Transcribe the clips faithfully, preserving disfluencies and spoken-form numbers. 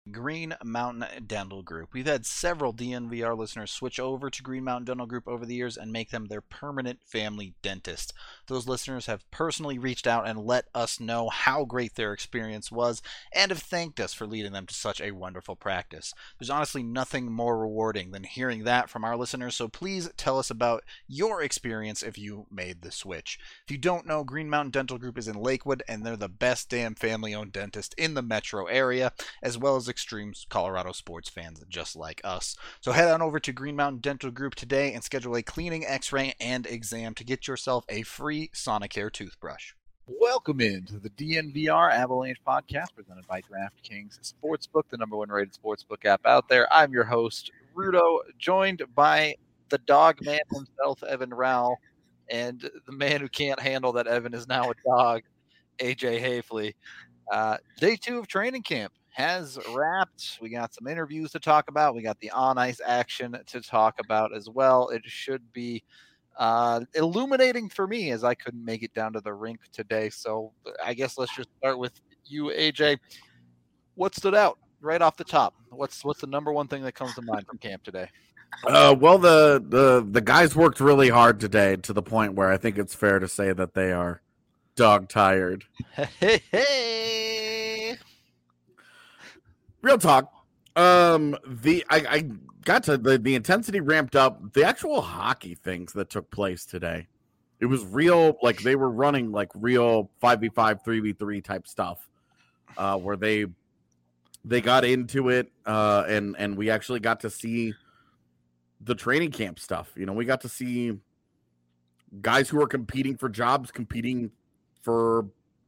Green Mountain Dental Group. We've had several D N V R listeners switch over to Green Mountain Dental Group over the years and make them their permanent family dentist. Those listeners have personally reached out and let us know how great their experience was and have thanked us for leading them to such a wonderful practice. There's honestly nothing more rewarding than hearing that from our listeners, so please tell us about your experience if you made the switch. If you don't know, Green Mountain Dental Group is in Lakewood, and they're the best damn family-owned dentist in the metro area, as well as extreme Colorado sports fans just like us. So head on over to Green Mountain Dental Group today and schedule a cleaning, x-ray, and exam to get yourself a free Sonicare toothbrush. Welcome into the D N V R Avalanche podcast presented by DraftKings Sportsbook, the number one rated sportsbook app out there. I'm your host, Rudo, joined by the dog man himself, Evan Rowell, and the man who can't handle that Evan is now a dog, A J Hafley. Uh, day two of training camp has wrapped. We got some interviews to talk about. We got the on-ice action to talk about as well. It should be uh, illuminating for me as I couldn't make it down to the rink today. So I guess let's just start with you, A J. What stood out right off the top? What's what's the number one thing that comes to mind from camp today? Uh, well, the, the the guys worked really hard today to the point where I think it's fair to say that they are dog tired. Hey, hey. Real talk. Um, the I, I got to the, the intensity ramped up. The actual hockey things that took place today, it was real. Like they were running like real five v five, three v three type stuff, uh, where they they got into it, uh, and and we actually got to see the training camp stuff. You know, we got to see guys who are competing for jobs, competing for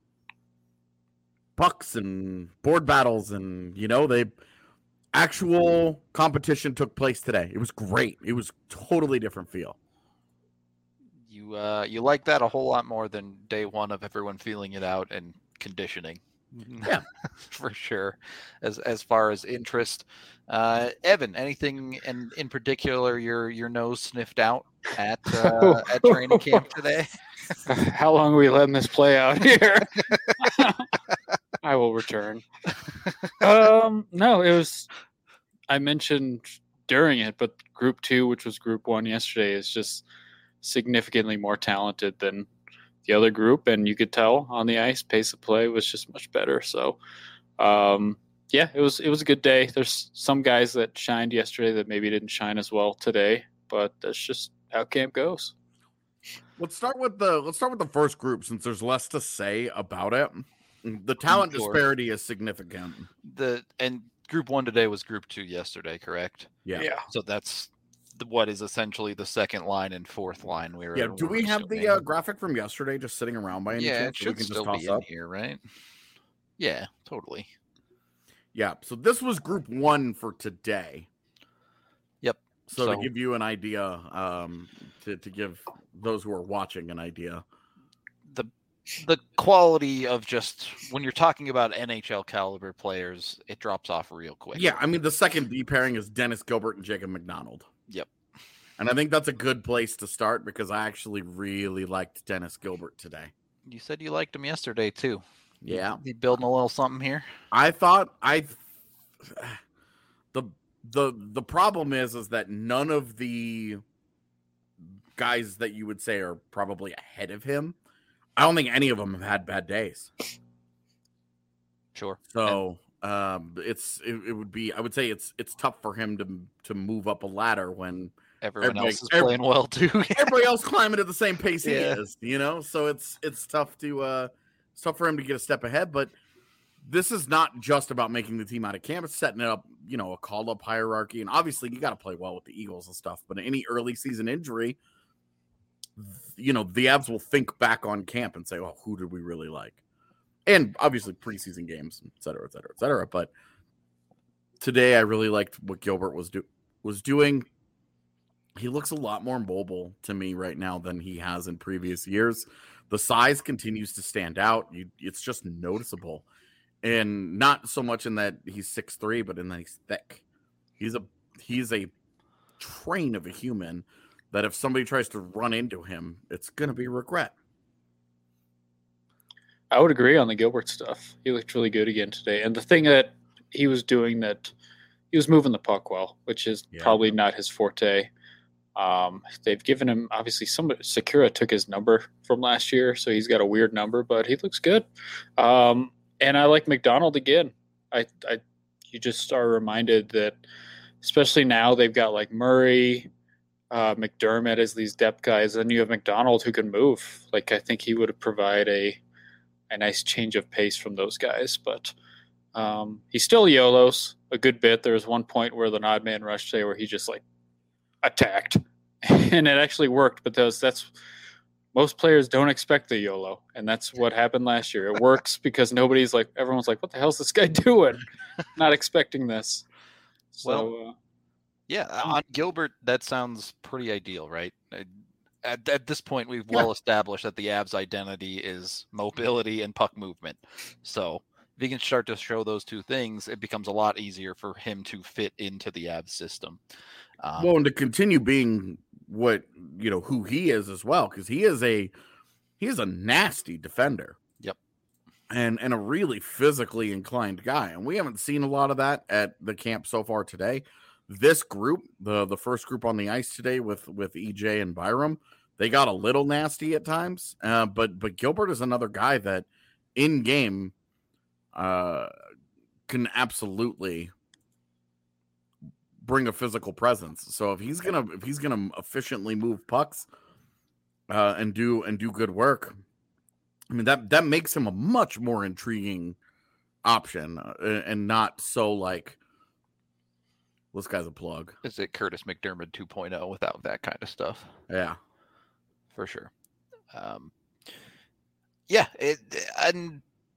pucks and board battles, and you know, they actual competition took place today. It was great. It was totally different feel. You uh, you like that a whole lot more than day one of everyone feeling it out and conditioning. Yeah, for sure. As as far as interest, uh, Evan, anything in in particular your your nose sniffed out at uh, at training camp today? How long are we letting this play out here? I will return. Um, no, it was, I mentioned during it, but group two, which was group one yesterday, is just significantly more talented than the other group. And you could tell on the ice, pace of play was just much better. So, um, yeah, it was, it was a good day. There's some guys that shined yesterday that maybe didn't shine as well today, but that's just how camp goes. Let's start with the let's start with the first group since there's less to say about it. The talent Sure. disparity is significant. The and group one today was group two yesterday, correct? Yeah. Yeah. So that's the, what is essentially the second line and fourth line. We were Yeah. Do we we were have the assuming. uh, graphic from yesterday just sitting around by any Yeah, it chance? So we should can just still toss be in up? here, right? Yeah, totally. Yeah. So this was group one for today. Yep. So, So- to give you an idea, um, to, to give those who are watching an idea. The the quality of just when you're talking about N H L caliber players, it drops off real quick. Yeah, I mean, the second D pairing is Dennis Gilbert and Jacob McDonald. Yep. And I think that's a good place to start because I actually really liked Dennis Gilbert today. You said you liked him yesterday too. Yeah. You building a little something here? I thought I the the the problem is is that none of the guys that you would say are probably ahead of him, I don't think any of them have had bad days. Sure. So um, it's it, it would be I would say it's it's tough for him to to move up a ladder when Everyone everybody- else is every- playing well too. everybody else climbing at the same pace he Yeah. is, you know. So it's it's tough to uh, it's tough for him to get a step ahead. But this is not just about making the team out of camp; it's setting it up, you know, a call up hierarchy. And obviously, you got to play well with the Eagles and stuff. But any early season injury, you know, the Avs will think back on camp and say, "Well, who did we really like?" And obviously, preseason games, et cetera, et cetera, et cetera. But today, I really liked what Gilbert was do was doing. He looks a lot more mobile to me right now than he has in previous years. The size continues to stand out. You, it's just noticeable. And not so much in that he's six three, but in that he's thick. He's a he's a train of a human that if somebody tries to run into him, it's going to be regret. I would agree on the Gilbert stuff. He looked really good again today. And the thing that he was doing that. He was moving the puck well, which is Yeah. probably not his forte. Um, they've given him, obviously, somebody, Sakura took his number from last year, so he's got a weird number, but he looks good. Um, and I like McDonald again. I, I, you just are reminded that, especially now, they've got like Murray, uh, McDermott as these depth guys, and you have McDonald who can move. Like, I think he would provide a, a nice change of pace from those guys, but um, he's still YOLOs a good bit. There was one point where the odd man rush today where he just like attacked, and it actually worked because that's most players don't expect the YOLO, and that's what happened last year. It works because nobody's like, everyone's like, what the hell's this guy doing? Not expecting this. So, Well, uh, Yeah, on Gilbert, that sounds pretty ideal, right? Uh, At, at this point, we've Yeah. well established that the Avs' identity is mobility and puck movement. So if he can start to show those two things, it becomes a lot easier for him to fit into the Avs system. Um, Well, and to continue being what you know who he is as well, because he is a he is a nasty defender. Yep. And and a really physically inclined guy, and we haven't seen a lot of that at the camp so far today. This group, the the first group on the ice today with with E J and Byram, they got a little nasty at times. Uh, but but Gilbert is another guy that in game uh, can absolutely bring a physical presence. So if he's gonna if he's gonna efficiently move pucks uh, and do and do good work, I mean that that makes him a much more intriguing option uh, and not so like, this guy's a plug. is it Curtis McDermott two point oh without that kind of stuff? Yeah. For sure. Um, yeah, it, and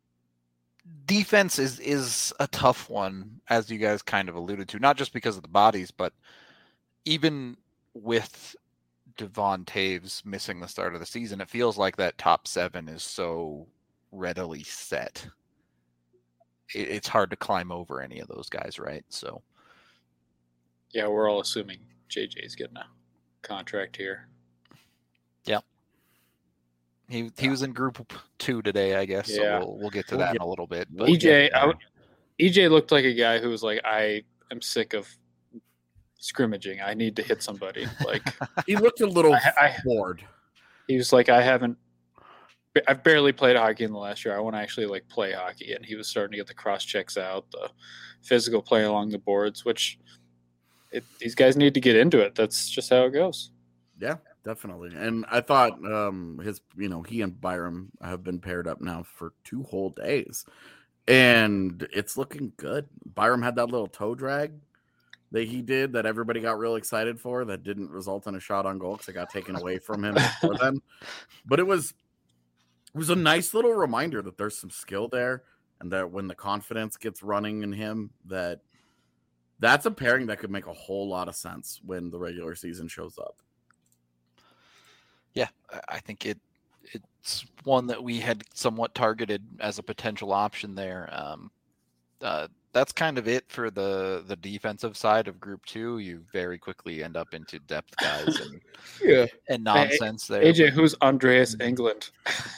defense is is a tough one, as you guys kind of alluded to, not just because of the bodies, but even with Devon Taves missing the start of the season, it feels like that top seven is so readily set. It, it's hard to climb over any of those guys, right? So, yeah, we're all assuming J J's getting a contract here. He he was in group two today, I guess. Yeah. So we'll we'll get to We'll that get- in a little bit. we'll But E J, get I there. would- E J looked like a guy who was like, I am sick of scrimmaging. I need to hit somebody. Like He looked a little I- I- bored. he was like, I haven't. I've barely played hockey in the last year. I want to actually like play hockey, and he was starting to get the cross checks out, the physical play along the boards, which it, these guys need to get into it. That's just how it goes. Yeah, definitely. And I thought um his, you know, he and Byram have been paired up now for two whole days. And it's looking good. Byram had that little toe drag that he did that everybody got real excited for that didn't result in a shot on goal because it got taken away from him before then. But it was it was a nice little reminder that there's some skill there, and that when the confidence gets running in him, that that's a pairing that could make a whole lot of sense when the regular season shows up. yeah, I- I think it it's one that we had somewhat targeted as a potential option there. Um, uh, that's kind of it for the the defensive side of Group Two. You very quickly end up into depth guys and, Yeah. and nonsense there. A J, who's Andreas Englund?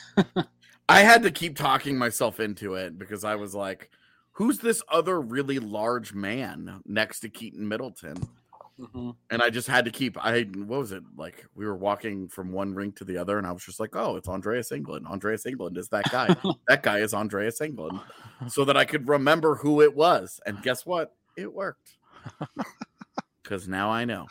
I had to keep talking myself into it because I was like, who's this other really large man next to Keaton Middleton? Mm-hmm. And I just had to keep, I, what was it? Like, we were walking from one rink to the other, and I was just like, oh, it's Andreas Englund. Andreas Englund is that guy. That guy is Andreas Englund. So that I could remember who it was. And guess what? It worked. Because now I know.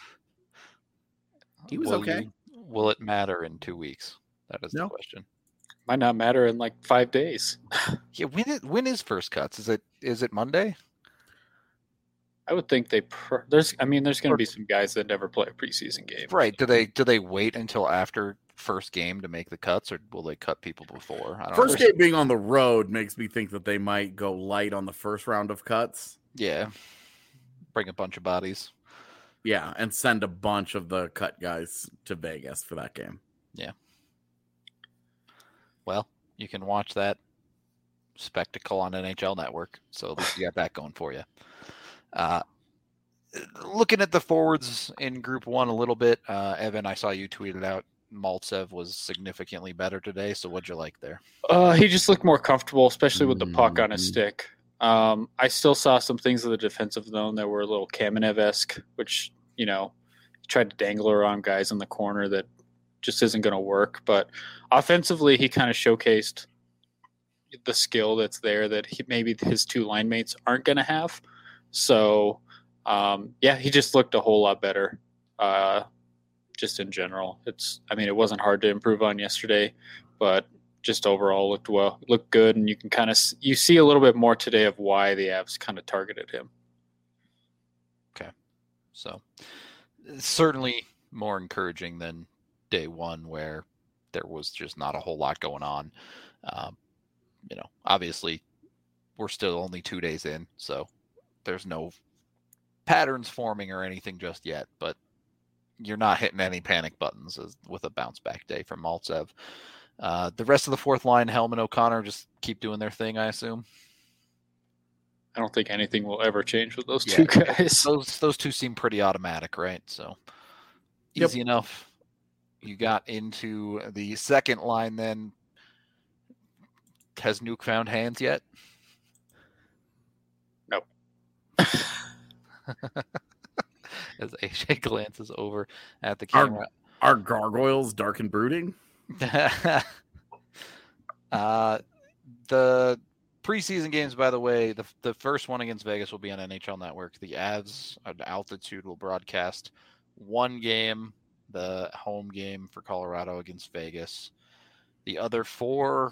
He was will okay. you- will it matter in two weeks? That is No. the question. Might not matter in like five days. Yeah, when it when is first cuts? Is it is it Monday? I would think they. Pr- there's. I mean, there's going to be some guys that never play a preseason game. Right. Do they do they wait until after first game to make the cuts, or will they cut people before? I don't First know. game being on the road makes me think that they might go light on the first round of cuts. Yeah. Bring a bunch of bodies. Yeah, and send a bunch of the cut guys to Vegas for that game. Well, you can watch that spectacle on N H L Network, so at least you got that going for you. Uh, looking at the forwards in Group One a little bit, uh, Evan, I saw you tweeted out Maltsev was significantly better today. So what'd you like there? Uh, he just looked more comfortable, especially with the puck on his Mhm. stick. Um, I still saw some things in the defensive zone that were a little Kamenev-esque, which, you know, tried to dangle around guys in the corner that just isn't going to work. But offensively, he kind of showcased the skill that's there that he, maybe his two line mates aren't going to have. So, um, yeah, he just looked a whole lot better. Uh, just in general, it's, I mean, it wasn't hard to improve on yesterday, but just overall looked well, looked good. And you can kind of, you see a little bit more today of why the Avs kind of targeted him. Okay. So certainly more encouraging than day one where there was just not a whole lot going on. Um, you know, obviously we're still only two days in, so there's no patterns forming or anything just yet, but you're not hitting any panic buttons as, with a bounce back day from Maltsev. Uh, the rest of the fourth line, Hellman, O'Connor, just keep doing their thing, I assume. I don't think anything will ever change with those Yeah, two guys. Those those two seem pretty automatic, right? So Yep. easy enough. You got into the second line then. Has Nuke found hands yet? No. As A J glances over at the Are, camera. are gargoyles dark and brooding? uh, the preseason games, by the way, the the first one against Vegas will be on N H L Network. The Avs at Altitude will broadcast one game, the home game for Colorado against Vegas. The other four,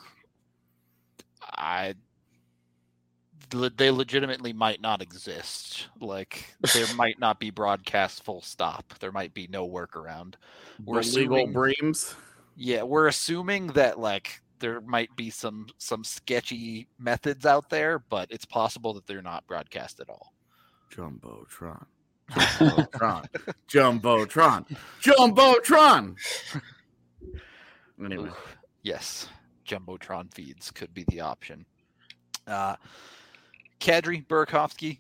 I they legitimately might not exist. Like, there might not be broadcast full stop. There might be no workaround. We're The legal assuming, breams? yeah, we're assuming that like there might be some some sketchy methods out there, but it's possible that they're not broadcast at all. Jumbotron. Jumbotron. Jumbotron. Jumbotron. Anyway. Ooh, yes, Jumbotron feeds could be the option. Uh, Kadri, Burakovsky,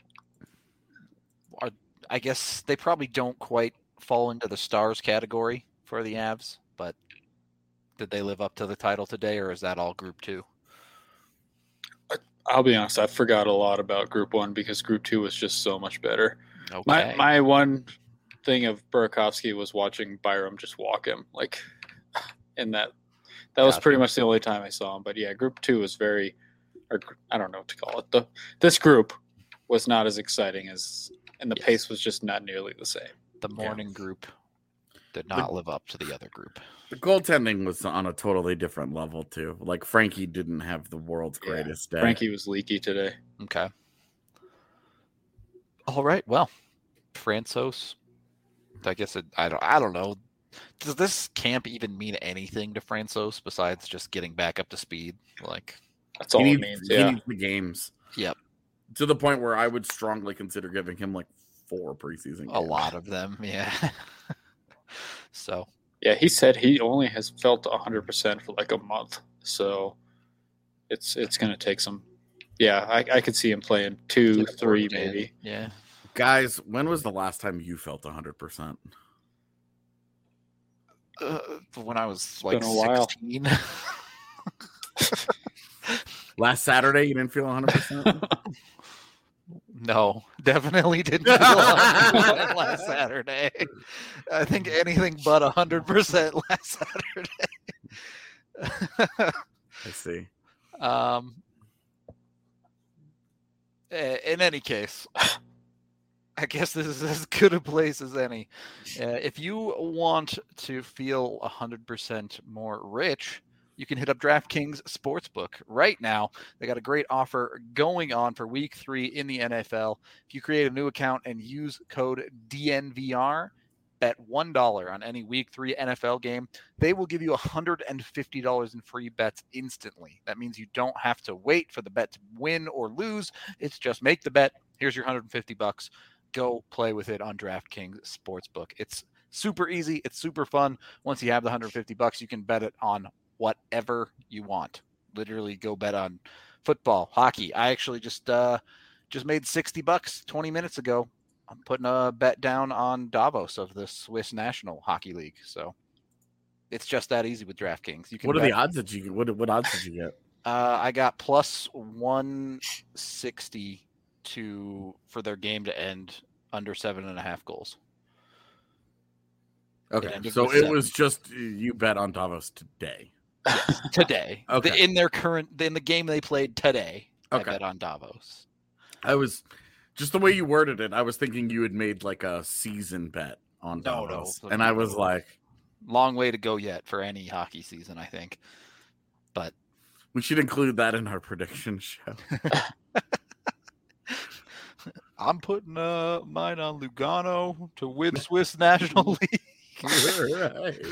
are, I guess they probably don't quite fall into the stars category for the Avs, but did they live up to the title today, or is that all Group Two? I'll be honest, I forgot a lot about Group One because Group Two was just so much better. Okay. My my one thing of Burakovsky was watching Byram just walk him, like, in that. That was Gotcha. pretty much the only time I saw him. But yeah, Group Two was very, or I don't know what to call it. The this group was not as exciting as, and the Yes. pace was just not nearly the same. The morning group did not live up to the other group. The goaltending was on a totally different level, too. Like, Frankie didn't have the world's Yeah. greatest day. Frankie was leaky today. Okay. All right. Well, Francouz. I guess it, I don't. I don't know. Does this camp even mean anything to Francouz besides just getting back up to speed? Like, That's all He it needs, means. he Yeah. needs the games. Yep. To the point where I would strongly consider giving him like four preseason a games. lot of them. Yeah. So Yeah, he said he only has felt one hundred percent for like a month. So it's it's going to take some. Yeah, I, I could see him playing two, like a three, fourth game. maybe. Yeah. Guys, when was the last time you felt one hundred percent? Uh, when I was like been a while. sixteen. Last Saturday, you didn't feel one hundred percent? No, definitely didn't feel one hundred percent last Saturday. I think anything but one hundred percent last Saturday. I see. um, in any case, I guess this is as good a place as any. Uh, if you want to feel one hundred percent more rich, you can hit up DraftKings Sportsbook right now. They got a great offer going on for week three in the N F L. If you create a new account and use code D N V R, bet one dollar on any week three N F L game, they will give you one hundred fifty dollars in free bets instantly. That means you don't have to wait for the bet to win or lose. It's just make the bet. Here's your one hundred fifty bucks. Go play with it on DraftKings Sportsbook. It's super easy. It's super fun. Once you have the one hundred fifty bucks, you can bet it on whatever you want. Literally go bet on football, hockey. I actually just uh, just made sixty bucks twenty minutes ago. I'm putting a bet down on Davos of the Swiss National Hockey League. So it's just that easy with DraftKings. You can What are bet the odds that you what what odds did you get? Uh, I got plus one sixty to for their game to end under seven and a half goals. Okay, ended so with it seven. was just you bet on Davos today. Today. Okay. The- in their current in the game they played today. Okay. I bet on Davos. I was just the way you worded it. I was thinking you had made like a season bet on No, no, Davos, no, and I no. was like, Long way to go yet for any hockey season, I think. But we should include that in our prediction show. I'm putting uh, mine on Lugano to win Swiss National League.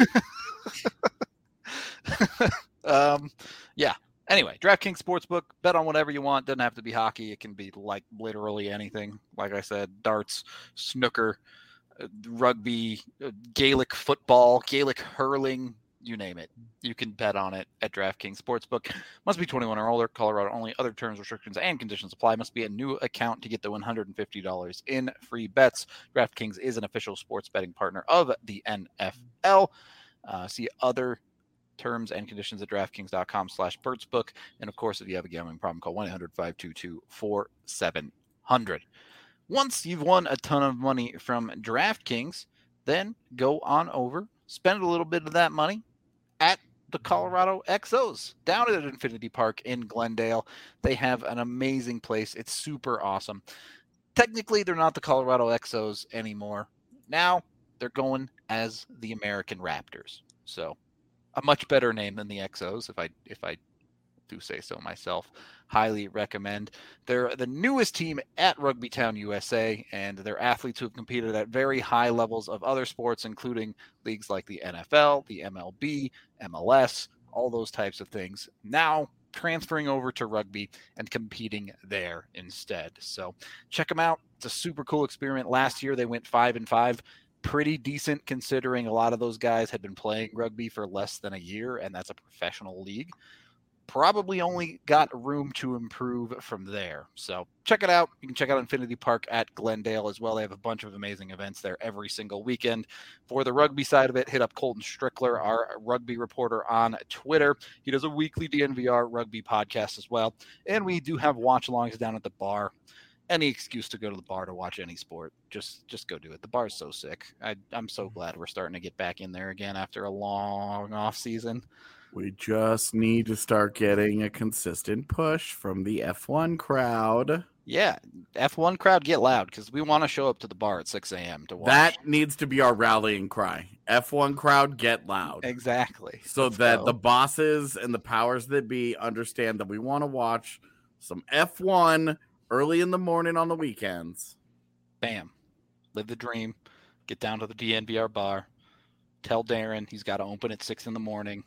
um, yeah. Anyway, DraftKings Sportsbook, bet on whatever you want. Doesn't have to be hockey. It can be like literally anything. Like I said, darts, snooker, uh, rugby, uh, Gaelic football, Gaelic hurling, you name it. You can bet on it at DraftKings Sportsbook. Must be twenty-one or older. Colorado only. Other terms, restrictions, and conditions apply. Must be a new account to get the one hundred fifty dollars in free bets. DraftKings is an official sports betting partner of the N F L. Uh, see other terms and conditions at DraftKings.com slash Sportsbook. And of course, if you have a gambling problem, call one eight hundred five two two four seven zero zero. Once you've won a ton of money from DraftKings, then go on over, spend a little bit of that money at the Colorado X Os down at Infinity Park in Glendale. They have an amazing place. It's super awesome. Technically, they're not the Colorado X Os anymore. Now they're going as the American Raptors. So a much better name than the X Os, if I if I do say so myself. Highly recommend. They're the newest team at Rugby Town, U S A, and they're athletes who have competed at very high levels of other sports, including leagues like the N F L, the M L B, M L S, all those types of things. Now transferring over to rugby and competing there instead. So check them out. It's a super cool experiment. Last year they went five and five. Pretty decent considering a lot of those guys had been playing rugby for less than a year, and that's a professional league. Probably only got room to improve from there. So check it out. You can check out Infinity Park at Glendale as well. They have a bunch of amazing events there every single weekend. For the rugby side of it, hit up Colton Strickler, our rugby reporter on Twitter. He does a weekly D N V R rugby podcast as well. And we do have watch-alongs down at the bar. Any excuse to go to the bar to watch any sport, just just go do it. The bar's so sick. I, I'm so glad we're starting to get back in there again after a long off season. We just need to start getting a consistent push from the F one crowd. Yeah, F one crowd, get loud because we want to show up to the bar at six a.m. to watch. That needs to be our rallying cry. F one crowd, get loud. Exactly. So Let's that go. the bosses and the powers that be understand that we want to watch some F one early in the morning on the weekends. Bam. Live the dream. Get down to the D N V R bar. Tell Darren he's got to open at six in the morning.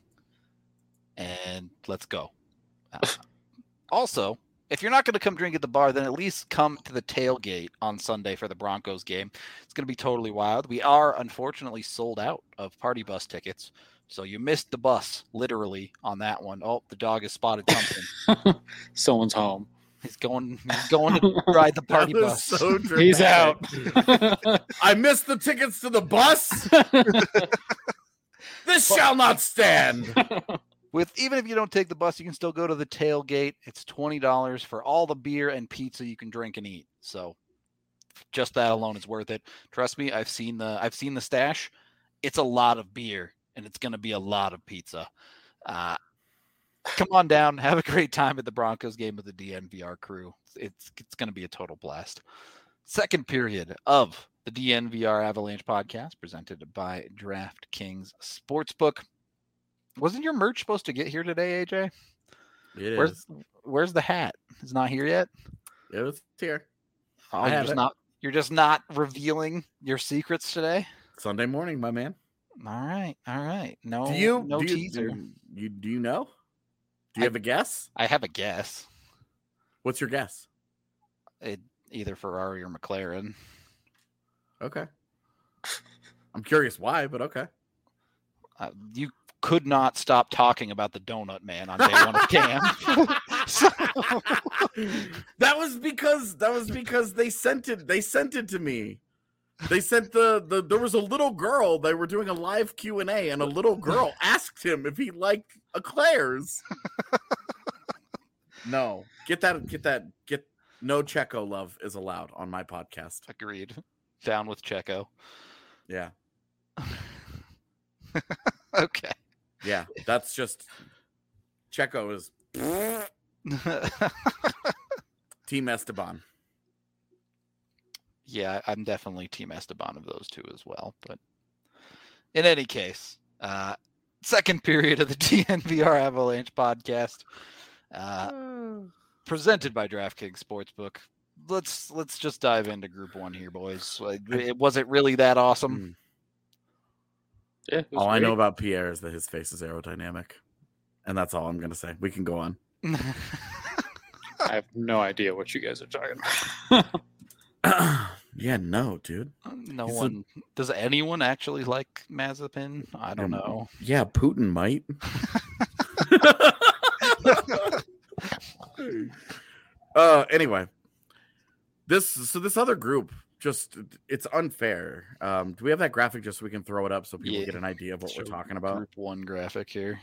And let's go. Uh, also, if you're not going to come drink at the bar, then at least come to the tailgate on Sunday for the Broncos game. It's going to be totally wild. We are unfortunately sold out of party bus tickets. So you missed the bus, literally, on that one. Oh, the dog has spotted something. Someone's home. He's going He's going to ride the party That was bus. so He's out. dramatic. I missed the tickets to the bus. This shall not stand. With even if you don't take the bus, you can still go to the tailgate. It's twenty dollars for all the beer and pizza you can drink and eat. So just that alone is worth it. Trust me, I've seen the I've seen the stash. It's a lot of beer and it's going to be a lot of pizza. Uh, come on down, have a great time at the Broncos game with the D N V R crew. It's it's going to be a total blast. Second period of the D N V R Avalanche podcast presented by DraftKings Sportsbook. Wasn't your merch supposed to get here today, A J? It Where's is. Where's the hat? It's not here yet. It was here. Oh, I you're have just it. not you're just not revealing your secrets today. Sunday morning, my man. All right, all right. No, Do you no do you, teaser. do you do you know? Do you I- have a guess? I have a guess. What's your guess? It, either Ferrari or McLaren. Okay. I'm curious why, but okay. Uh, you could not stop talking about the Donut Man on day one of camp. So- that was because that was because they sent it they sent it to me. They sent the, the there was a little girl, they were doing a live Q and A and a little girl asked him if he liked eclairs. No, get that, get that, get no Checo love is allowed on my podcast. Agreed. Down with Checo. Yeah, Okay. yeah, that's just Checo is Team Esteban. Yeah, I'm definitely Team Esteban of those two as well. But in any case, uh, second period of the D N V R Avalanche podcast, uh, presented by DraftKings Sportsbook. Let's let's just dive into Group One here, boys. It, was it really that awesome? Yeah. it was All I know great. about Pierre is that his face is aerodynamic, and that's all I'm gonna say. We can go on. I have no idea what you guys are talking about. Yeah, no, dude. no He's a- one does. Anyone actually like Mazepin? I don't Yeah, know. Yeah, Putin might. uh anyway. This so this other group just it's unfair. Um do we have that graphic just so we can throw it up so people Yeah. get an idea of what we're Show talking about? Group One graphic here.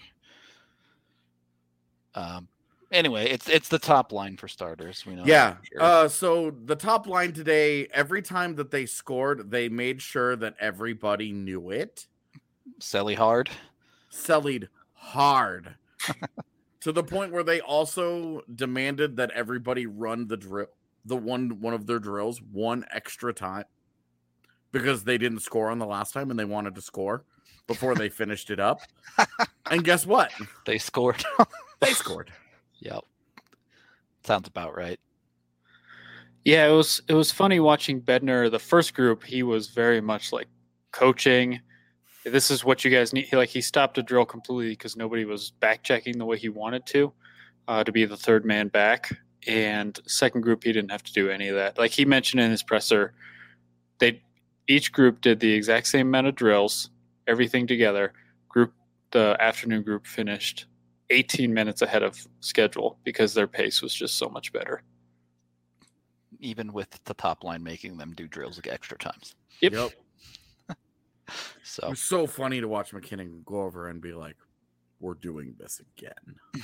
Um. Anyway, it's it's the top line for starters. We know. that Yeah. for sure. Uh so the top line today, every time that they scored, they made sure that everybody knew it. Selly hard. Sellied hard. To the point where they also demanded that everybody run the drill, the one one of their drills one extra time because they didn't score on the last time and they wanted to score before they finished it up. And guess what? They scored. They scored. Yep. Sounds about right. Yeah, it was it was funny watching Bednar. The first group, he was very much like coaching. This is what you guys need. He, like he stopped a drill completely because nobody was back checking the way he wanted to, uh, to be the third man back. And second group, he didn't have to do any of that. Like he mentioned in his presser, they each group did the exact same amount of drills, everything together. Group the afternoon group finished eighteen minutes ahead of schedule because their pace was just so much better. Even with the top line making them do drills like extra times. Yep. Yep. It So was so funny to watch McKinnon go over and be like, "We're doing this again."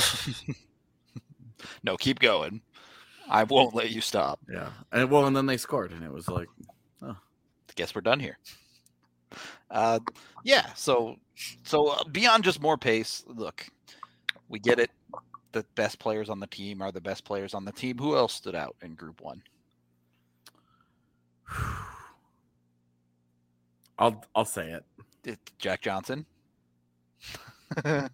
no, keep going. I won't let you stop. Yeah. And well, and then they scored, and it was like, Guess we're done here. Uh, yeah. So, so uh, beyond just more pace, look, we get it. The best players on the team are the best players on the team. Who else stood out in Group One? I'll I'll say it. Did Jack Johnson. I'm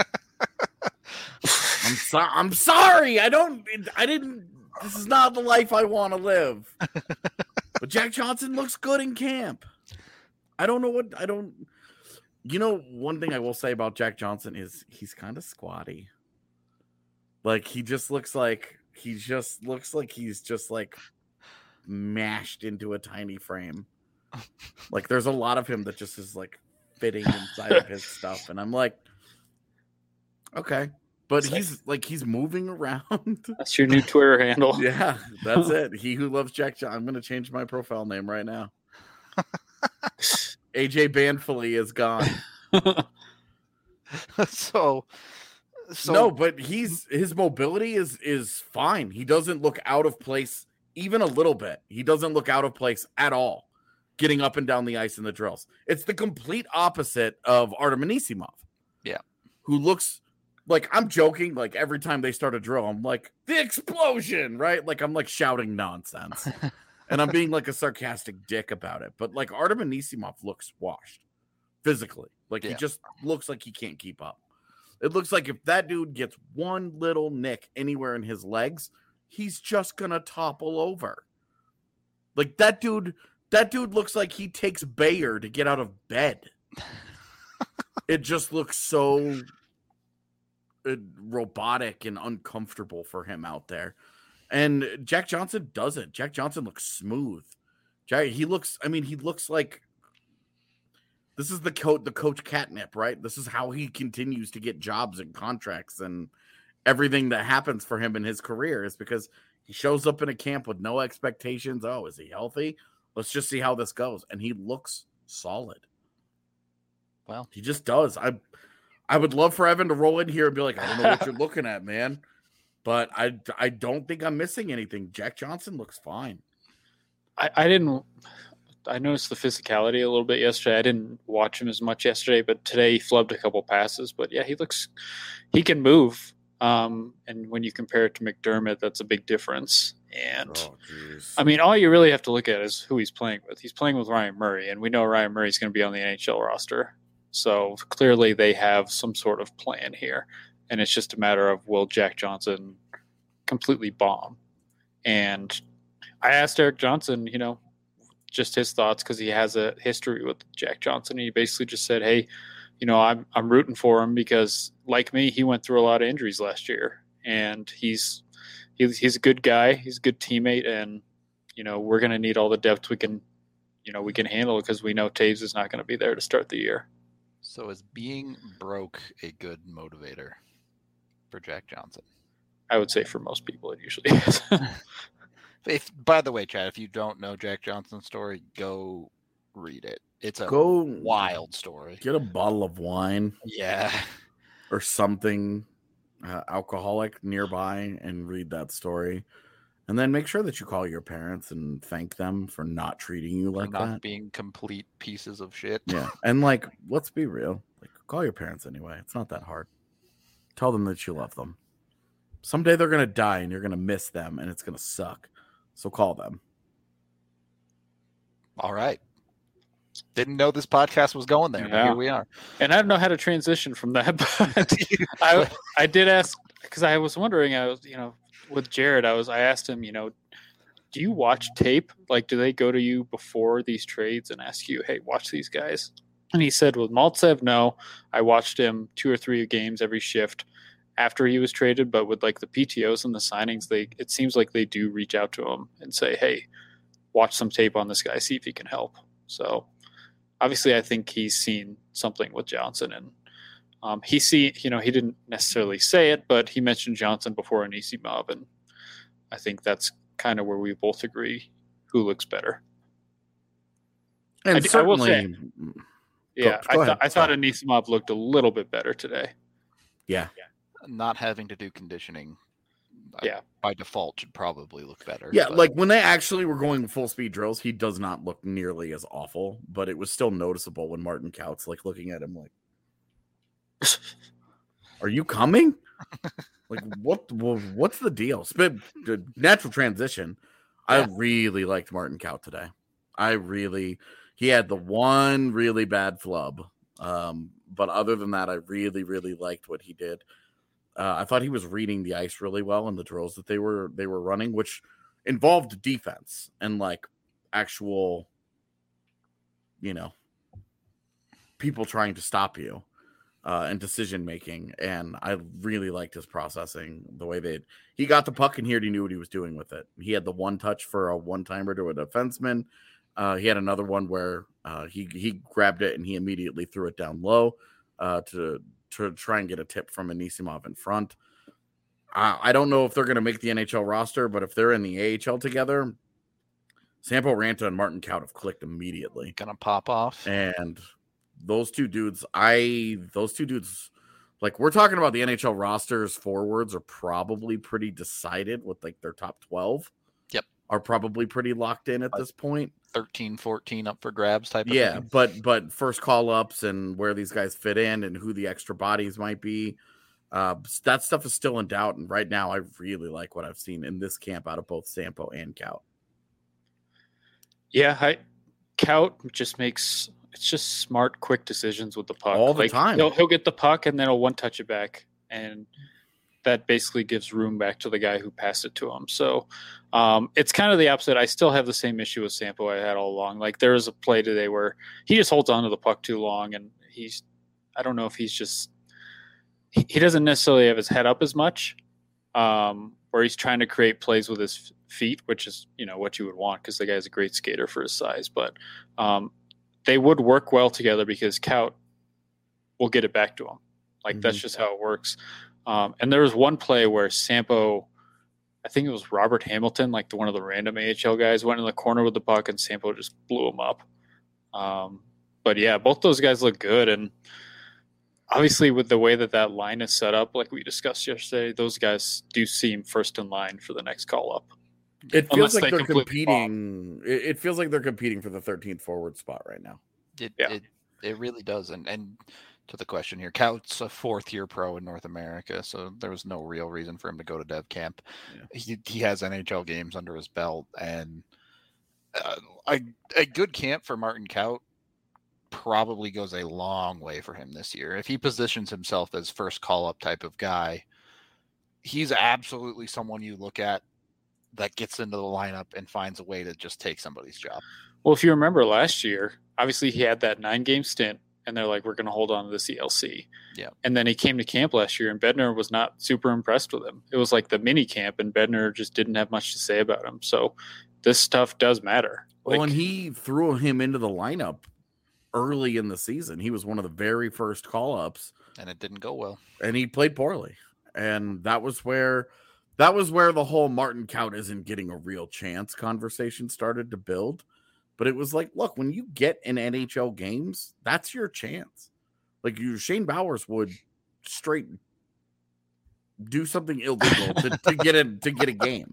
so- I'm sorry. I don't. I didn't. This is not the life I want to live. But Jack Johnson looks good in camp. I don't know what I don't. You know, one thing I will say about Jack Johnson is he's kind of squatty. Like he just looks like he just looks like he's just like mashed into a tiny frame. Like there's a lot of him that just is like fitting inside of his stuff, and I'm like, okay, but Sick. he's like he's moving around. That's your new Twitter handle. Yeah, that's it. He who loves Jack Johnson. I'm gonna change my profile name right now. A J Banfully is gone. so, so No, but he's his mobility is is fine. He doesn't look out of place even a little bit. He doesn't look out of place at all. Getting up and down the ice in the drills. It's the complete opposite of Artem Anisimov. Yeah. Who looks like I'm joking, like every time they start a drill, I'm like, the explosion, right? Like I'm like shouting nonsense. And I'm being like a sarcastic dick about it. But like Artem Anisimov looks washed physically. Like he Yeah. just looks like he can't keep up. It looks like if that dude gets one little nick anywhere in his legs, he's just gonna topple over. Like that dude, that dude looks like he takes Bayer to get out of bed. It just looks so uh, robotic and uncomfortable for him out there. And Jack Johnson doesn't. Jack Johnson looks smooth. Jack, he looks, I mean, he looks like this is the coach, the coach catnip, right? This is how he continues to get jobs and contracts and everything that happens for him in his career is because he shows up in a camp with no expectations. Oh, is he healthy? Let's just see how this goes. And he looks solid. Well, He just does. I I would love for Evan to roll in here and be like, I don't know what you're looking at, man. but I I don't think I'm missing anything. Jack Johnson looks fine. I, I didn't. I noticed the physicality a little bit yesterday. I didn't watch him as much yesterday, but today he flubbed a couple passes. But yeah, he looks, he can move. Um, and when you compare it to McDermott, that's a big difference. And Oh, jeez. I mean, all you really have to look at is who he's playing with. He's playing with Ryan Murray, and we know Ryan Murray's going to be on the N H L roster. So clearly they have some sort of plan here. And it's just a matter of, will Jack Johnson completely bomb? And I asked Eric Johnson, you know, just his thoughts, because he has a history with Jack Johnson. And he basically just said, hey, you know, I'm I'm rooting for him because, like me, he went through a lot of injuries last year. And he's he's, he's a good guy. He's a good teammate. And, you know, we're going to need all the depth we can, you know, we can handle, because we know Taves is not going to be there to start the year. So is being broke a good motivator for Jack Johnson? I would say for most people it usually is. If, by the way, Chad, if you don't know Jack Johnson's story, go read it. It's a Go wild story. Get a bottle of wine Yeah. or something uh, alcoholic nearby and read that story. And then make sure that you call your parents and thank them for not treating you For like not that. being complete pieces of shit. Yeah. And like, let's be real. Like, call your parents anyway. It's not that hard. Tell them that you love them. Someday they're going to die and you're going to miss them and it's going to suck. So call them. All right. Didn't know this podcast was going there, but Yeah. here we are. And I don't know how to transition from that, but I I did ask, because I was wondering, I was, you know, with Jared, I was I asked him, you know, do you watch tape? Like, do they go to you before these trades and ask you, hey, watch these guys? And he said, with Maltsev, no. I watched him two or three games every shift after he was traded, but with like the P T Os and the signings, they it seems like they do reach out to him and say, hey, watch some tape on this guy, see if he can help. So obviously I think he's seen something with Johnson, and um, he see, you know, he didn't necessarily say it, but he mentioned Johnson before Anisimov, and I think that's kind of where we both agree who looks better. And I d- I will certainly, Yeah, go I, ahead. th- I thought Anisimov looked a little bit better today. yeah. Not having to do conditioning, uh, Yeah. by default, should probably look better. Yeah, but- like when they actually were going full speed drills, he does not look nearly as awful, but it was still noticeable when Martin Couts like looking at him like, "Are you coming? Like what? wha- What's the deal?" Spit the natural transition. I Yeah. really liked Martin Kaut today. I really he had the one really bad flub, um, but other than that, I really really liked what he did. Uh, I thought he was reading the ice really well in the drills that they were they were running, which involved defense and like actual, you know, people trying to stop you uh, and decision making. And I really liked his processing, the way that he got the puck in here. He knew what he was doing with it. He had the one touch for a one timer to a defenseman. Uh, he had another one where uh, he he grabbed it and he immediately threw it down low uh, to. to try and get a tip from Anisimov in front. Uh, I don't know if they're going to make the N H L roster, but if they're in the A H L together, Sampo Ranta and Martin Kaut have clicked immediately. gonna pop off. And those two dudes, I, those two dudes, like we're talking about the N H L rosters, forwards are probably pretty decided with like their top twelve. Yep. Are probably pretty locked in at this point. thirteen, fourteen up for grabs type of Yeah, thing. but but first call ups and where these guys fit in and who the extra bodies might be, uh, that stuff is still in doubt. And right now, I really like what I've seen in this camp out of both Sampo and Kaut. Yeah, I, Kaut just makes it's just smart, quick decisions with the puck All the Like, time. He'll, he'll get the puck and then he'll one touch it back, and that basically gives room back to the guy who passed it to him. So um, it's kind of the opposite. I still have the same issue with Sampo I had all along. Like there was a play today where he just holds on to the puck too long, and he's I don't know if he's just he, he doesn't necessarily have his head up as much, um, or he's trying to create plays with his feet, which is you know what you would want because the guy's a great skater for his size. But um, they would work well together because Kaut will get it back to him. Like Mhm. that's just how it works. Um, and there was one play where Sampo, I think it was Robert Hamilton, like the, one of the random A H L guys, went in the corner with the puck, and Sampo just blew him up. Um, but yeah, both those guys look good, and obviously with the way that that line is set up, like we discussed yesterday, those guys do seem first in line for the next call up. It Unless feels like they they're completely competing. It, it feels like they're competing for the thirteenth forward spot right now. It, Yeah. it it really does. And and to the question here, Cout's a fourth year pro in North America, so there was no real reason for him to go to dev camp. Yeah. He he has N H L games under his belt, and uh, a a good camp for Martin Kaut probably goes a long way for him this year. If he positions himself as first call up type of guy, he's absolutely someone you look at that gets into the lineup and finds a way to just take somebody's job. Well, if you remember last year, obviously he had that nine game stint and they're like, we're going to hold on to the C L C. Yeah. And then he came to camp last year and Bednar was not super impressed with him. It was like the mini camp and Bednar just didn't have much to say about him. So this stuff does matter. Well, Like, and he threw him into the lineup early in the season. He was one of the very first call ups, And it didn't go well. and he played poorly. And that was where that was where the whole Martin Kaut isn't getting a real chance conversation started to build. But it was like, look, when you get in N H L games, that's your chance. Like you, Shane Bowers would straight do something illegal to, to get a to get a game.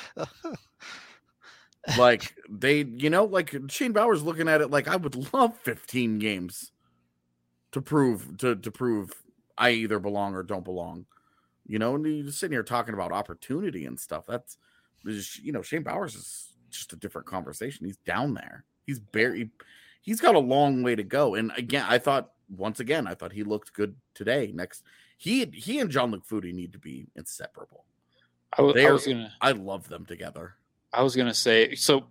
Like they, you know, like Shane Bowers looking at it like I would love fifteen games to prove to to prove I either belong or don't belong. You know, and you're sitting here talking about opportunity and stuff. That's, you know, Shane Bowers is just a different conversation. He's down there. He's barely, he's got a long way to go. And again, I thought once again, I thought he looked good today. Next, he he and Jean-Luc Foudy need to be inseparable. I, w- I They're- was gonna, I love them together. I was gonna say. So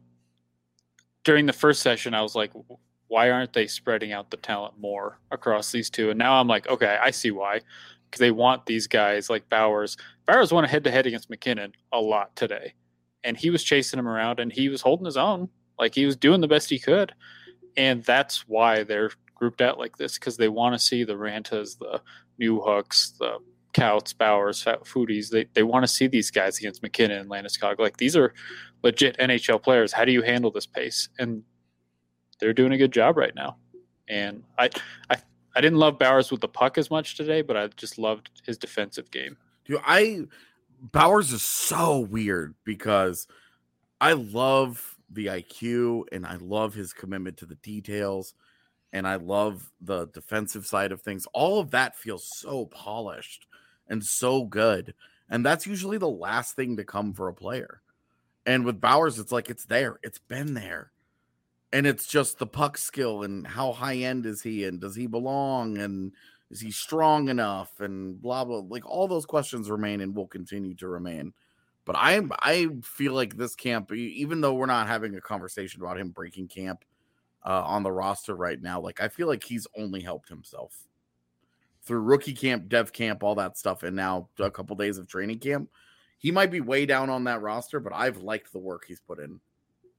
during the first session, I was like, why aren't they spreading out the talent more across these two? And now I'm like, okay, I see why. Because they want these guys like Bowers. Bowers won a head to head against McKinnon a lot today, and he was chasing him around, and he was holding his own. Like he was doing the best he could, and that's why they're grouped out like this, because they want to see the Rantas, the New Hooks, the Couts, Bowers, Foodies. They they want to see these guys against McKinnon and Landeskog. Like these are legit N H L players. How do you handle this pace? And they're doing a good job right now. And I I I didn't love Bowers with the puck as much today, but I just loved his defensive game. Dude, I Bowers is so weird because I love the I Q and I love his commitment to the details and I love the defensive side of things. All of that feels so polished and so good. And that's usually the last thing to come for a player. And with Bowers, it's like it's there. It's been there. And it's just the puck skill and how high end is he and does he belong and is he strong enough and blah blah, like all those questions remain and will continue to remain. But I I feel like this camp, even though we're not having a conversation about him breaking camp uh, on the roster right now, like I feel like he's only helped himself through rookie camp, dev camp, all that stuff, and now a couple days of training camp. He might be way down on that roster, but I've liked the work he's put in.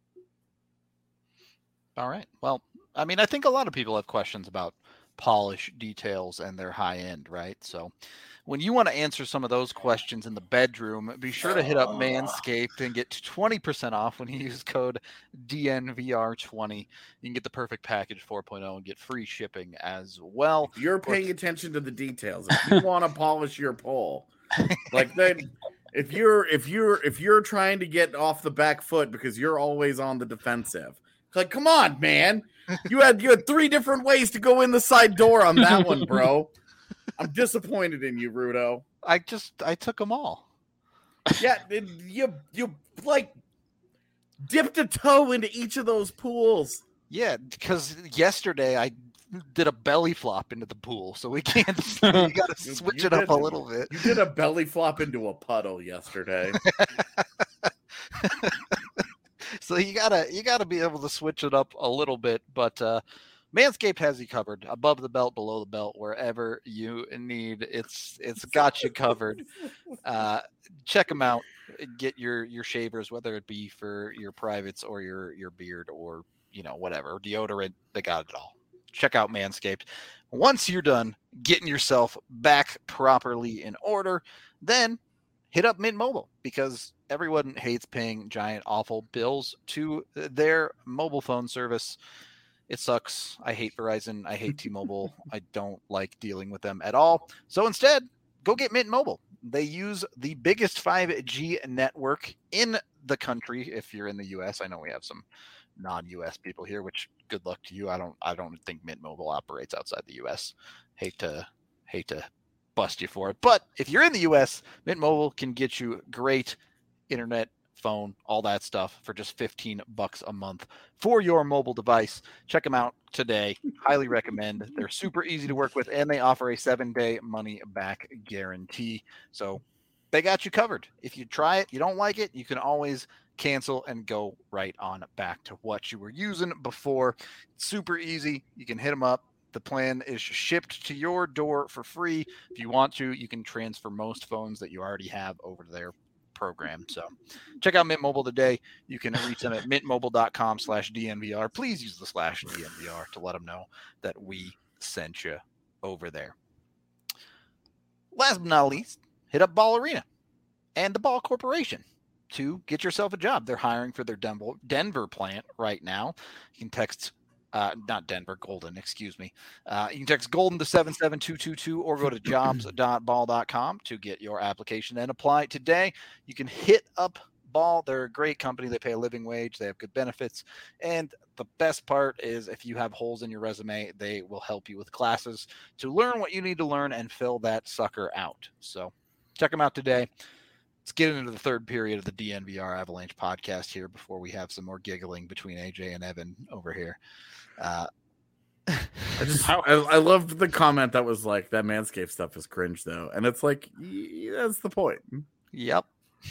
All right. Well, I mean, I think a lot of people have questions about polish, details, and their high end, right? So when you want to answer some of those questions in the bedroom, be sure to hit up Manscaped and get twenty percent off when you use code D N V R twenty. You can get the perfect package four point oh and get free shipping as well. If you're paying attention to the details, if you want to polish your pole, like then if you're if you're if you're trying to get off the back foot because you're always on the defensive, like come on, man. You had you had three different ways to go in the side door on that one, bro. I'm disappointed in you, Rudo. I just I took them all. Yeah, it, you you like dipped a toe into each of those pools. Yeah, because yesterday I did a belly flop into the pool, so we can't. You got to You- switch you it up did- a little bit. You did a belly flop into a puddle yesterday. So you gotta you gotta be able to switch it up a little bit, but uh, Manscaped has you covered, above the belt, below the belt, wherever you need. It's it's got you covered. Uh, check them out. Get your your shavers, whether it be for your privates or your your beard or you know whatever deodorant. They got it all. Check out Manscaped. Once you're done getting yourself back properly in order, then hit up Mint Mobile because everyone hates paying giant, awful bills to their mobile phone service. It sucks. I hate Verizon. I hate T-Mobile. I don't like dealing with them at all. So instead, go get Mint Mobile. They use the biggest five G network in the country. If you're in the U S, I know we have some non-U S people here, which good luck to you. I don't I don't think Mint Mobile operates outside the U S. Hate to hate to bust you for it. But if you're in the U S, Mint Mobile can get you great internet, phone, all that stuff for just fifteen bucks a month for your mobile device. Check them out today. Highly recommend. They're super easy to work with, and they offer a seven-day money-back guarantee. So they got you covered. If you try it, you don't like it, you can always cancel and go right on back to what you were using before. It's super easy. You can hit them up. The plan is shipped to your door for free. If you want to, you can transfer most phones that you already have over to their program. So check out Mint Mobile today. You can reach them at mintmobile.com slash DNVR. Please use the slash D N V R to let them know that we sent you over there. Last but not least, hit up Ball Arena and the Ball Corporation to get yourself a job. They're hiring for their Denver, Denver plant right now. You can text Uh, not Denver, Golden, excuse me. Uh, you can text Golden to seven seven two two two or go to jobs dot ball dot com to get your application and apply today. You can hit up Ball. They're a great company. They pay a living wage. They have good benefits. And the best part is if you have holes in your resume, they will help you with classes to learn what you need to learn and fill that sucker out. So check them out today. Let's get into the third period of the D N V R Avalanche podcast here before we have some more giggling between A J and Evan over here. Uh, I just I, I loved the comment that was like that Manscaped stuff is cringe though, and it's like yeah, that's the point. Yep.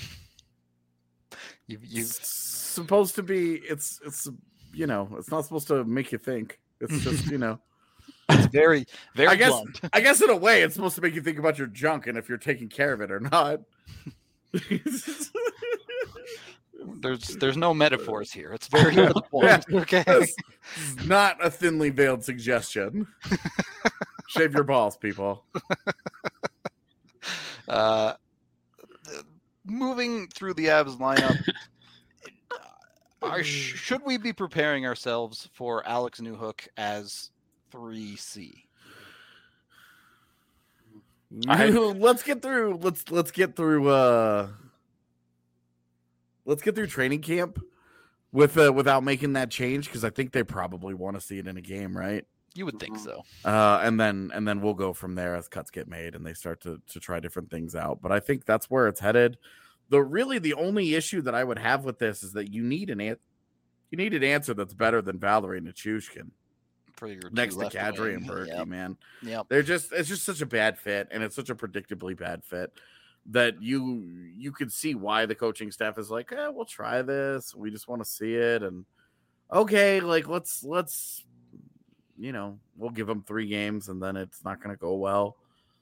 You you supposed to be it's it's you know it's not supposed to make you think. It's just you know. It's very very I guess blunt. I guess in a way it's supposed to make you think about your junk and if you're taking care of it or not. There's there's no metaphors here. It's very to the point. Yeah. Okay. This is not a thinly veiled suggestion. Shave your balls, people. Uh, moving through the Avs lineup, are, should we be preparing ourselves for Alex Newhook as three C? I, let's get through. Let's let's get through. Uh, let's get through training camp with uh, without making that change because I think they probably want to see it in a game, right? You would think so. Uh, and then and then we'll go from there as cuts get made and they start to to try different things out. But I think that's where it's headed. The really the only issue that I would have with this is that you need an an- you need an answer that's better than Valerie Nichushkin. For your Next to Kadri and Berkey, yep. man. Yep. They're just it's just such a bad fit, and it's such a predictably bad fit that you you could see why the coaching staff is like, eh, we'll try this. We just want to see it. And okay, like let's let's you know, we'll give them three games and then it's not gonna go well.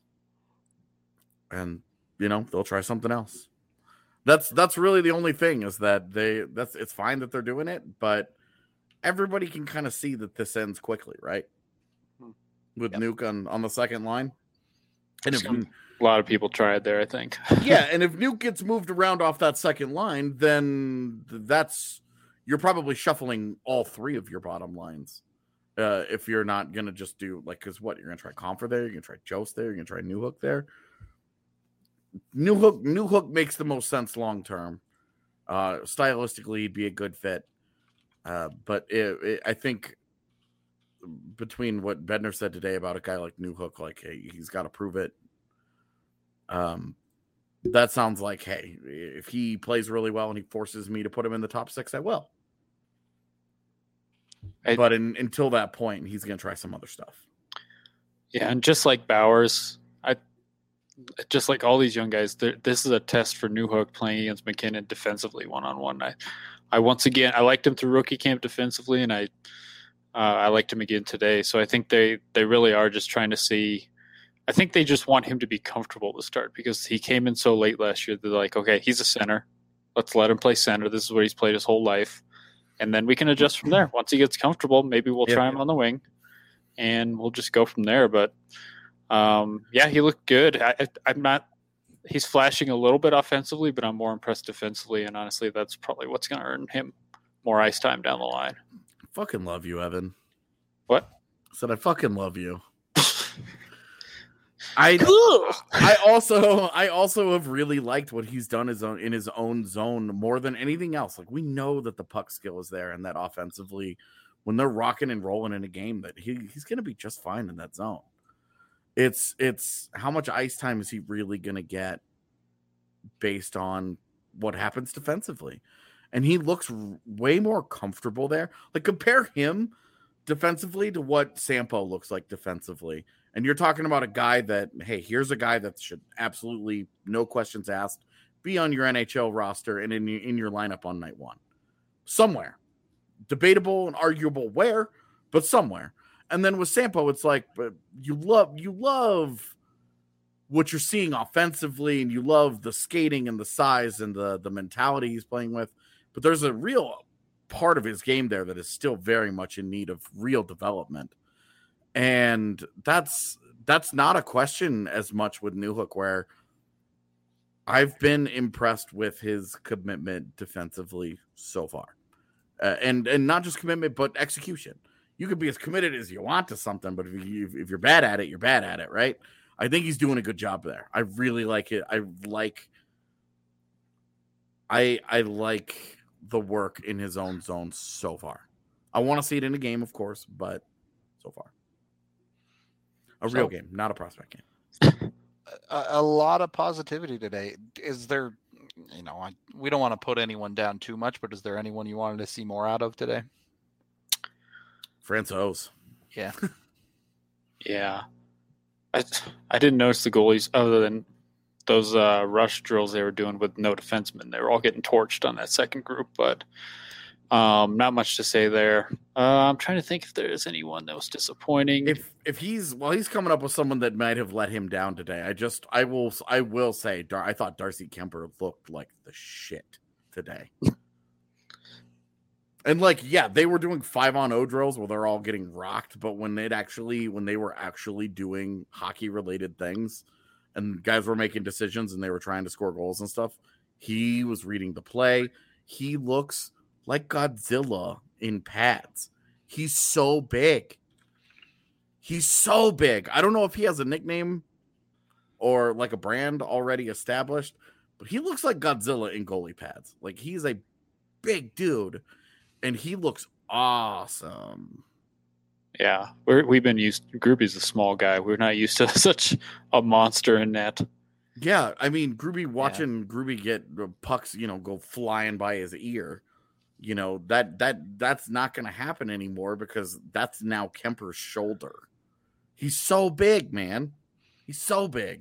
And you know, they'll try something else. That's that's really the only thing is that they that's it's fine that they're doing it, but everybody can kind of see that this ends quickly, right? With yep. Nuke on, on the second line. And if Some, a lot of people tried there, I think. Yeah, and if Nuke gets moved around off that second line, then that's you're probably shuffling all three of your bottom lines. Uh, if you're not going to just do, like, because what? You're going to try Comfer there, you're going to try Jost there, you're going to try Newhook there. Newhook, Newhook makes the most sense long term. Uh, stylistically, he'd be a good fit. Uh, but it, it, I think between what Bednar said today about a guy like Newhook, like, hey, he's got to prove it. Um, that sounds like, hey, if he plays really well and he forces me to put him in the top six, I will. I, but in, until that point, he's going to try some other stuff. Yeah, and just like Bowers, I just like all these young guys, this is a test for Newhook playing against McKinnon defensively one-on-one. I I once again I liked him through rookie camp defensively, and I uh, I liked him again today. So I think they they really are just trying to see. I think they just want him to be comfortable to start because he came in so late last year. They're like, okay, he's a center. Let's let him play center. This is what he's played his whole life, and then we can adjust from there. Once he gets comfortable, maybe we'll yeah. try him on the wing, and we'll just go from there. But um, yeah, he looked good. I, I, I'm not. He's flashing a little bit offensively, but I'm more impressed defensively. And honestly, that's probably what's going to earn him more ice time down the line. Fucking love you, Evan. What? I said I fucking love you. I I also I also have really liked what he's done his own in his own zone more than anything else. Like we know that the puck skill is there and that offensively, when they're rocking and rolling in a game, that he, he's gonna be just fine in that zone. It's it's how much ice time is he really gonna get based on what happens defensively? And he looks r- way more comfortable there. Like compare him defensively to what Sampo looks like defensively. And you're talking about a guy that, hey, here's a guy that should absolutely, no questions asked, be on your N H L roster and in your, in your lineup on night one. Somewhere. Debatable and arguable where, but somewhere. And then with Sampo, it's like, but you love you love what you're seeing offensively, and you love the skating and the size and the, the mentality he's playing with. But there's a real part of his game there that is still very much in need of real development. And that's that's not a question as much with Newhook, where I've been impressed with his commitment defensively so far. Uh, and and not just commitment, but execution. You could be as committed as you want to something, but if, you, if you're bad at it, you're bad at it, right? I think he's doing a good job there. I really like it. I like I I like the work in his own zone so far. I want to see it in a game, of course, but so far. A real So- game, not a prospect game. a, a lot of positivity today. Is there, you know, I, we don't want to put anyone down too much, but is there anyone you wanted to see more out of today? Francouz. Yeah. Yeah. I, I didn't notice the goalies other than those uh, rush drills they were doing with no defensemen. They were all getting torched on that second group, but um, not much to say there. Uh, I'm trying to think if there's anyone that was disappointing. If if he's well, he's coming up with someone that might have let him down today. I just I will I will say Dar- I thought Darcy Kemper looked like the shit today. And like, yeah, they were doing five on O drills where they're all getting rocked, but when it actually when they were actually doing hockey related things and guys were making decisions and they were trying to score goals and stuff, he was reading the play. He looks like Godzilla in pads. He's so big. He's so big. I don't know if he has a nickname or like a brand already established, but he looks like Godzilla in goalie pads. Like he's a big dude. And he looks awesome. Yeah, we're, we've been used. Groupie's a small guy. We're not used to such a monster in net. Yeah, I mean, Groovy watching yeah. Groovy get pucks, you know, go flying by his ear. You know that that that's not going to happen anymore because that's now Kemper's shoulder. He's so big, man. He's so big.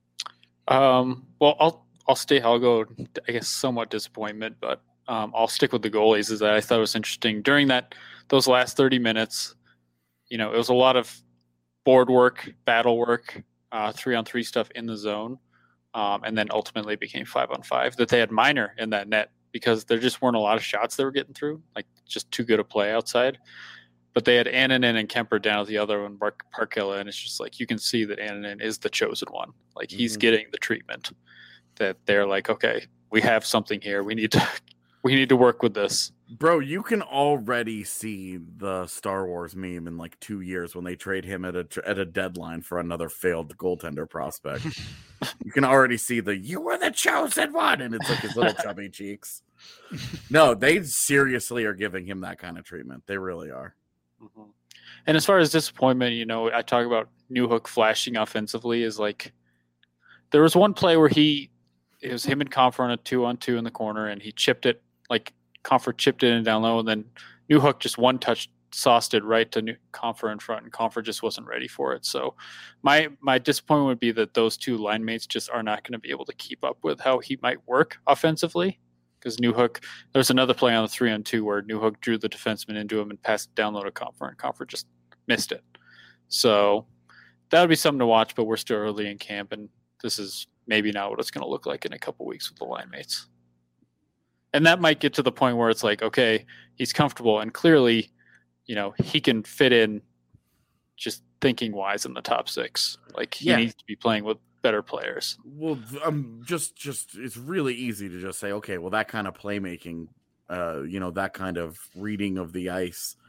Um. Well, I'll I'll stay. I'll go. I guess somewhat disappointment, but. Um, I'll stick with the goalies. Is that I thought it was interesting during that those last thirty minutes. You know, it was a lot of board work, battle work, uh, three on three stuff in the zone, um, and then ultimately became five on five. That they had Minor in that net because there just weren't a lot of shots they were getting through, like just too good a play outside. But they had Annunen and Kemper down at the other one, Mark Parkilla, and it's just like you can see that Annunen is the chosen one. Like he's mm-hmm. getting the treatment that they're like, okay, we have something here. We need to. We need to work with this. Bro, you can already see the Star Wars meme in like two years when they trade him at a at a deadline for another failed goaltender prospect. You can already see the, you were the chosen one. And it's like his little chubby cheeks. No, they seriously are giving him that kind of treatment. They really are. Mm-hmm. And as far as disappointment, you know, I talk about Newhook flashing offensively is like, there was one play where he, it was him and Comfort on a two on two in the corner and he chipped it. Like Comfort chipped it in down low, and then Newhook just one touch sauced it right to New- Comfort in front, and Comfort just wasn't ready for it. So my my disappointment would be that those two line mates just are not going to be able to keep up with how he might work offensively. Because Newhook, there's another play on the three on two where Newhook drew the defenseman into him and passed it down low to Comfort, and Comfort just missed it. So that would be something to watch, but we're still early in camp, and this is maybe not what it's going to look like in a couple weeks with the line mates. And that might get to the point where it's like, okay, he's comfortable and clearly, you know, he can fit in just thinking wise in the top six. Like he yeah. needs to be playing with better players. Well, um, just, just, it's really easy to just say, okay, well, that kind of playmaking, uh, you know, that kind of reading of the ice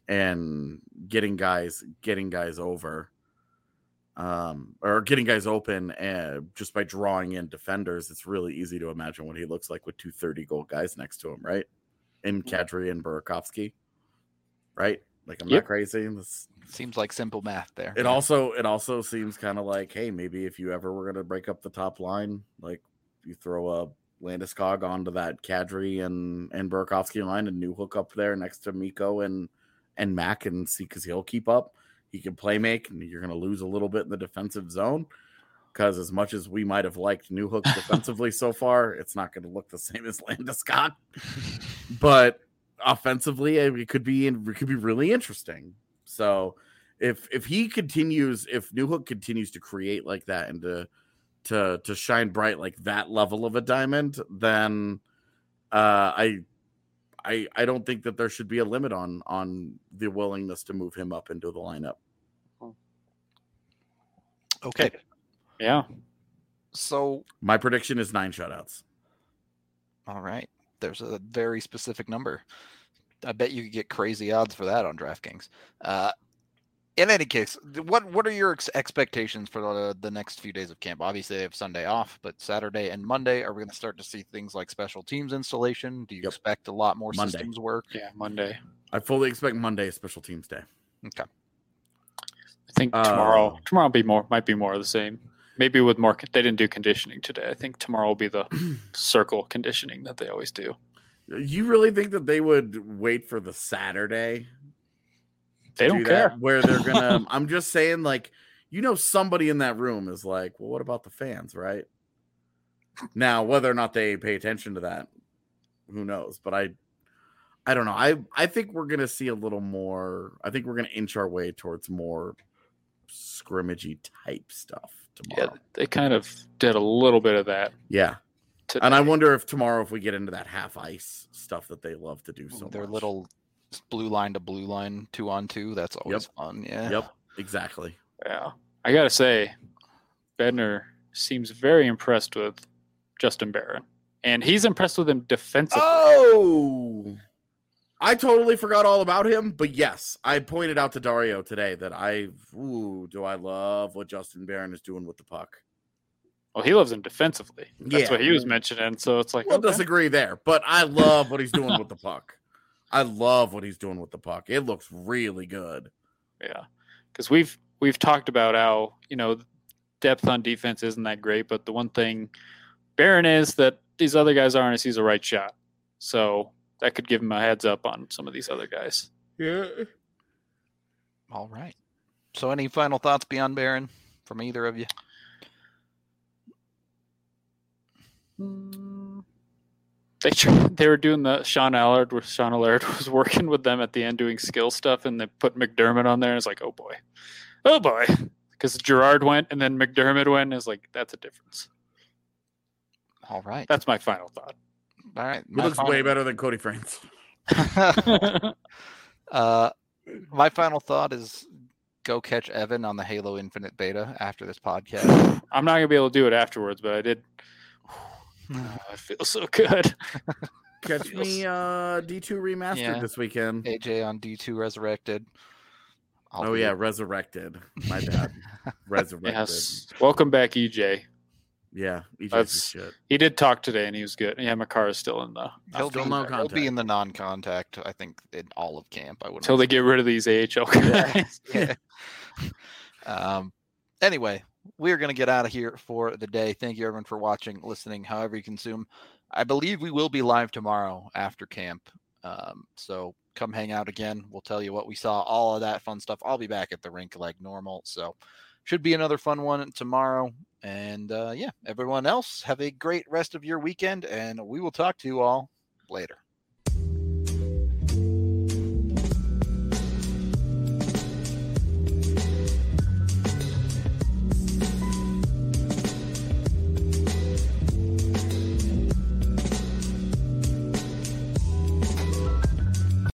and getting guys getting guys over, um, or getting guys open, and just by drawing in defenders, it's really easy to imagine what he looks like with two thirty goal guys next to him, right? In Kadri and Burakovsky, right? Like, I'm Yep. not crazy. This, Seems like simple math there. it also it also seems kind of like, hey, maybe if you ever were gonna break up the top line, like you throw a Landeskog onto that Kadri and and Burakovsky line, and New Hook up there next to Miko and and Mac, and see, because he'll keep up, he can play make, and you're gonna lose a little bit in the defensive zone. Because as much as we might have liked New Hook defensively so far, it's not going to look the same as Landeskog. But offensively, it could be it could be really interesting. So if if he continues, if New Hook continues to create like that and to to to shine bright like that level of a diamond, then uh, I I I don't think that there should be a limit on on the willingness to move him up into the lineup. Okay. Yeah. So, My prediction is nine shutouts. all right. There's a very specific number. I bet you could get crazy odds for that on DraftKings. Uh, in any case, th- what what are your ex- expectations for the, the next few days of camp? Obviously, they have Sunday off, but Saturday and Monday, are we going to start to see things like special teams installation? Do you Yep. expect a lot more Monday. systems work? Yeah. Monday. I fully expect Monday is Special Teams Day. Okay. I think Uh, tomorrow. tomorrow will be more. Might be more of the same. Maybe with more. They didn't do conditioning today. I think tomorrow will be the circle conditioning that they always do. You really think that they would wait for the Saturday? They to don't do that, care. where they're gonna. I'm just saying, like, you know, somebody in that room is like, well, what about the fans, right? Now, whether or not they pay attention to that, who knows? But I, I don't know. I I think we're gonna see a little more. I think we're gonna inch our way towards more scrimmagey type stuff Yeah, tomorrow. they kind of did a little bit of that Yeah. today. And I wonder if tomorrow, if we get into that half ice stuff that they love to do so Their much. little blue line to blue line, two on two. That's always fun. Yeah. Yep, exactly. Yeah, I gotta say, Bednar seems very impressed with Justin Barron, and he's impressed with him defensively. Oh, I totally forgot all about him. But yes, I pointed out to Dario today that I, ooh, do I love what Justin Barron is doing with the puck. Well, he loves him defensively. That's Yeah. what he was mentioning. So it's like, We'll okay. disagree there, but I love what he's doing with the puck. I love what he's doing with the puck. It looks really good. Yeah, because we've we've talked about how, you know, depth on defense isn't that great, but the one thing Barron is that these other guys aren't is he's a right shot. So that could give him a heads up on some of these other guys. Yeah. All right. So, any final thoughts beyond Barron from either of you? They tried, they were doing the Sean Allard where Sean Allard was working with them at the end doing skill stuff, and they put McDermott on there. And it's like, oh boy, oh boy, because Gerard went and then McDermott went. Is like, that's a difference. All right. That's my final thought. All right. He My looks final- way better than Cody France. uh, my final thought is go catch Evan on the Halo Infinite beta after this podcast. I'm not gonna be able to do it afterwards, but I did. Oh, I feel so good. Catch me uh, D two remastered Yeah. this weekend. A J on D two Resurrected. I'll Oh be- yeah, resurrected. My bad. Resurrected. Yes. Welcome back, E J. Yeah, E J's That's- is shit. He did talk today, and he was good. Yeah, Makar is still in the He'll, Still be, no he'll be contact. in the non-contact, I think, in all of camp. I wouldn't until they get rid of these A H L guys. Yeah. um, anyway, we're going to get out of here for the day. Thank you, everyone, for watching, listening, however you consume. I believe we will be live tomorrow after camp. Um, so come hang out again. We'll tell you what we saw, all of that fun stuff. I'll be back at the rink like normal. So should be another fun one tomorrow. And uh, yeah, everyone else, have a great rest of your weekend, and we will talk to you all later.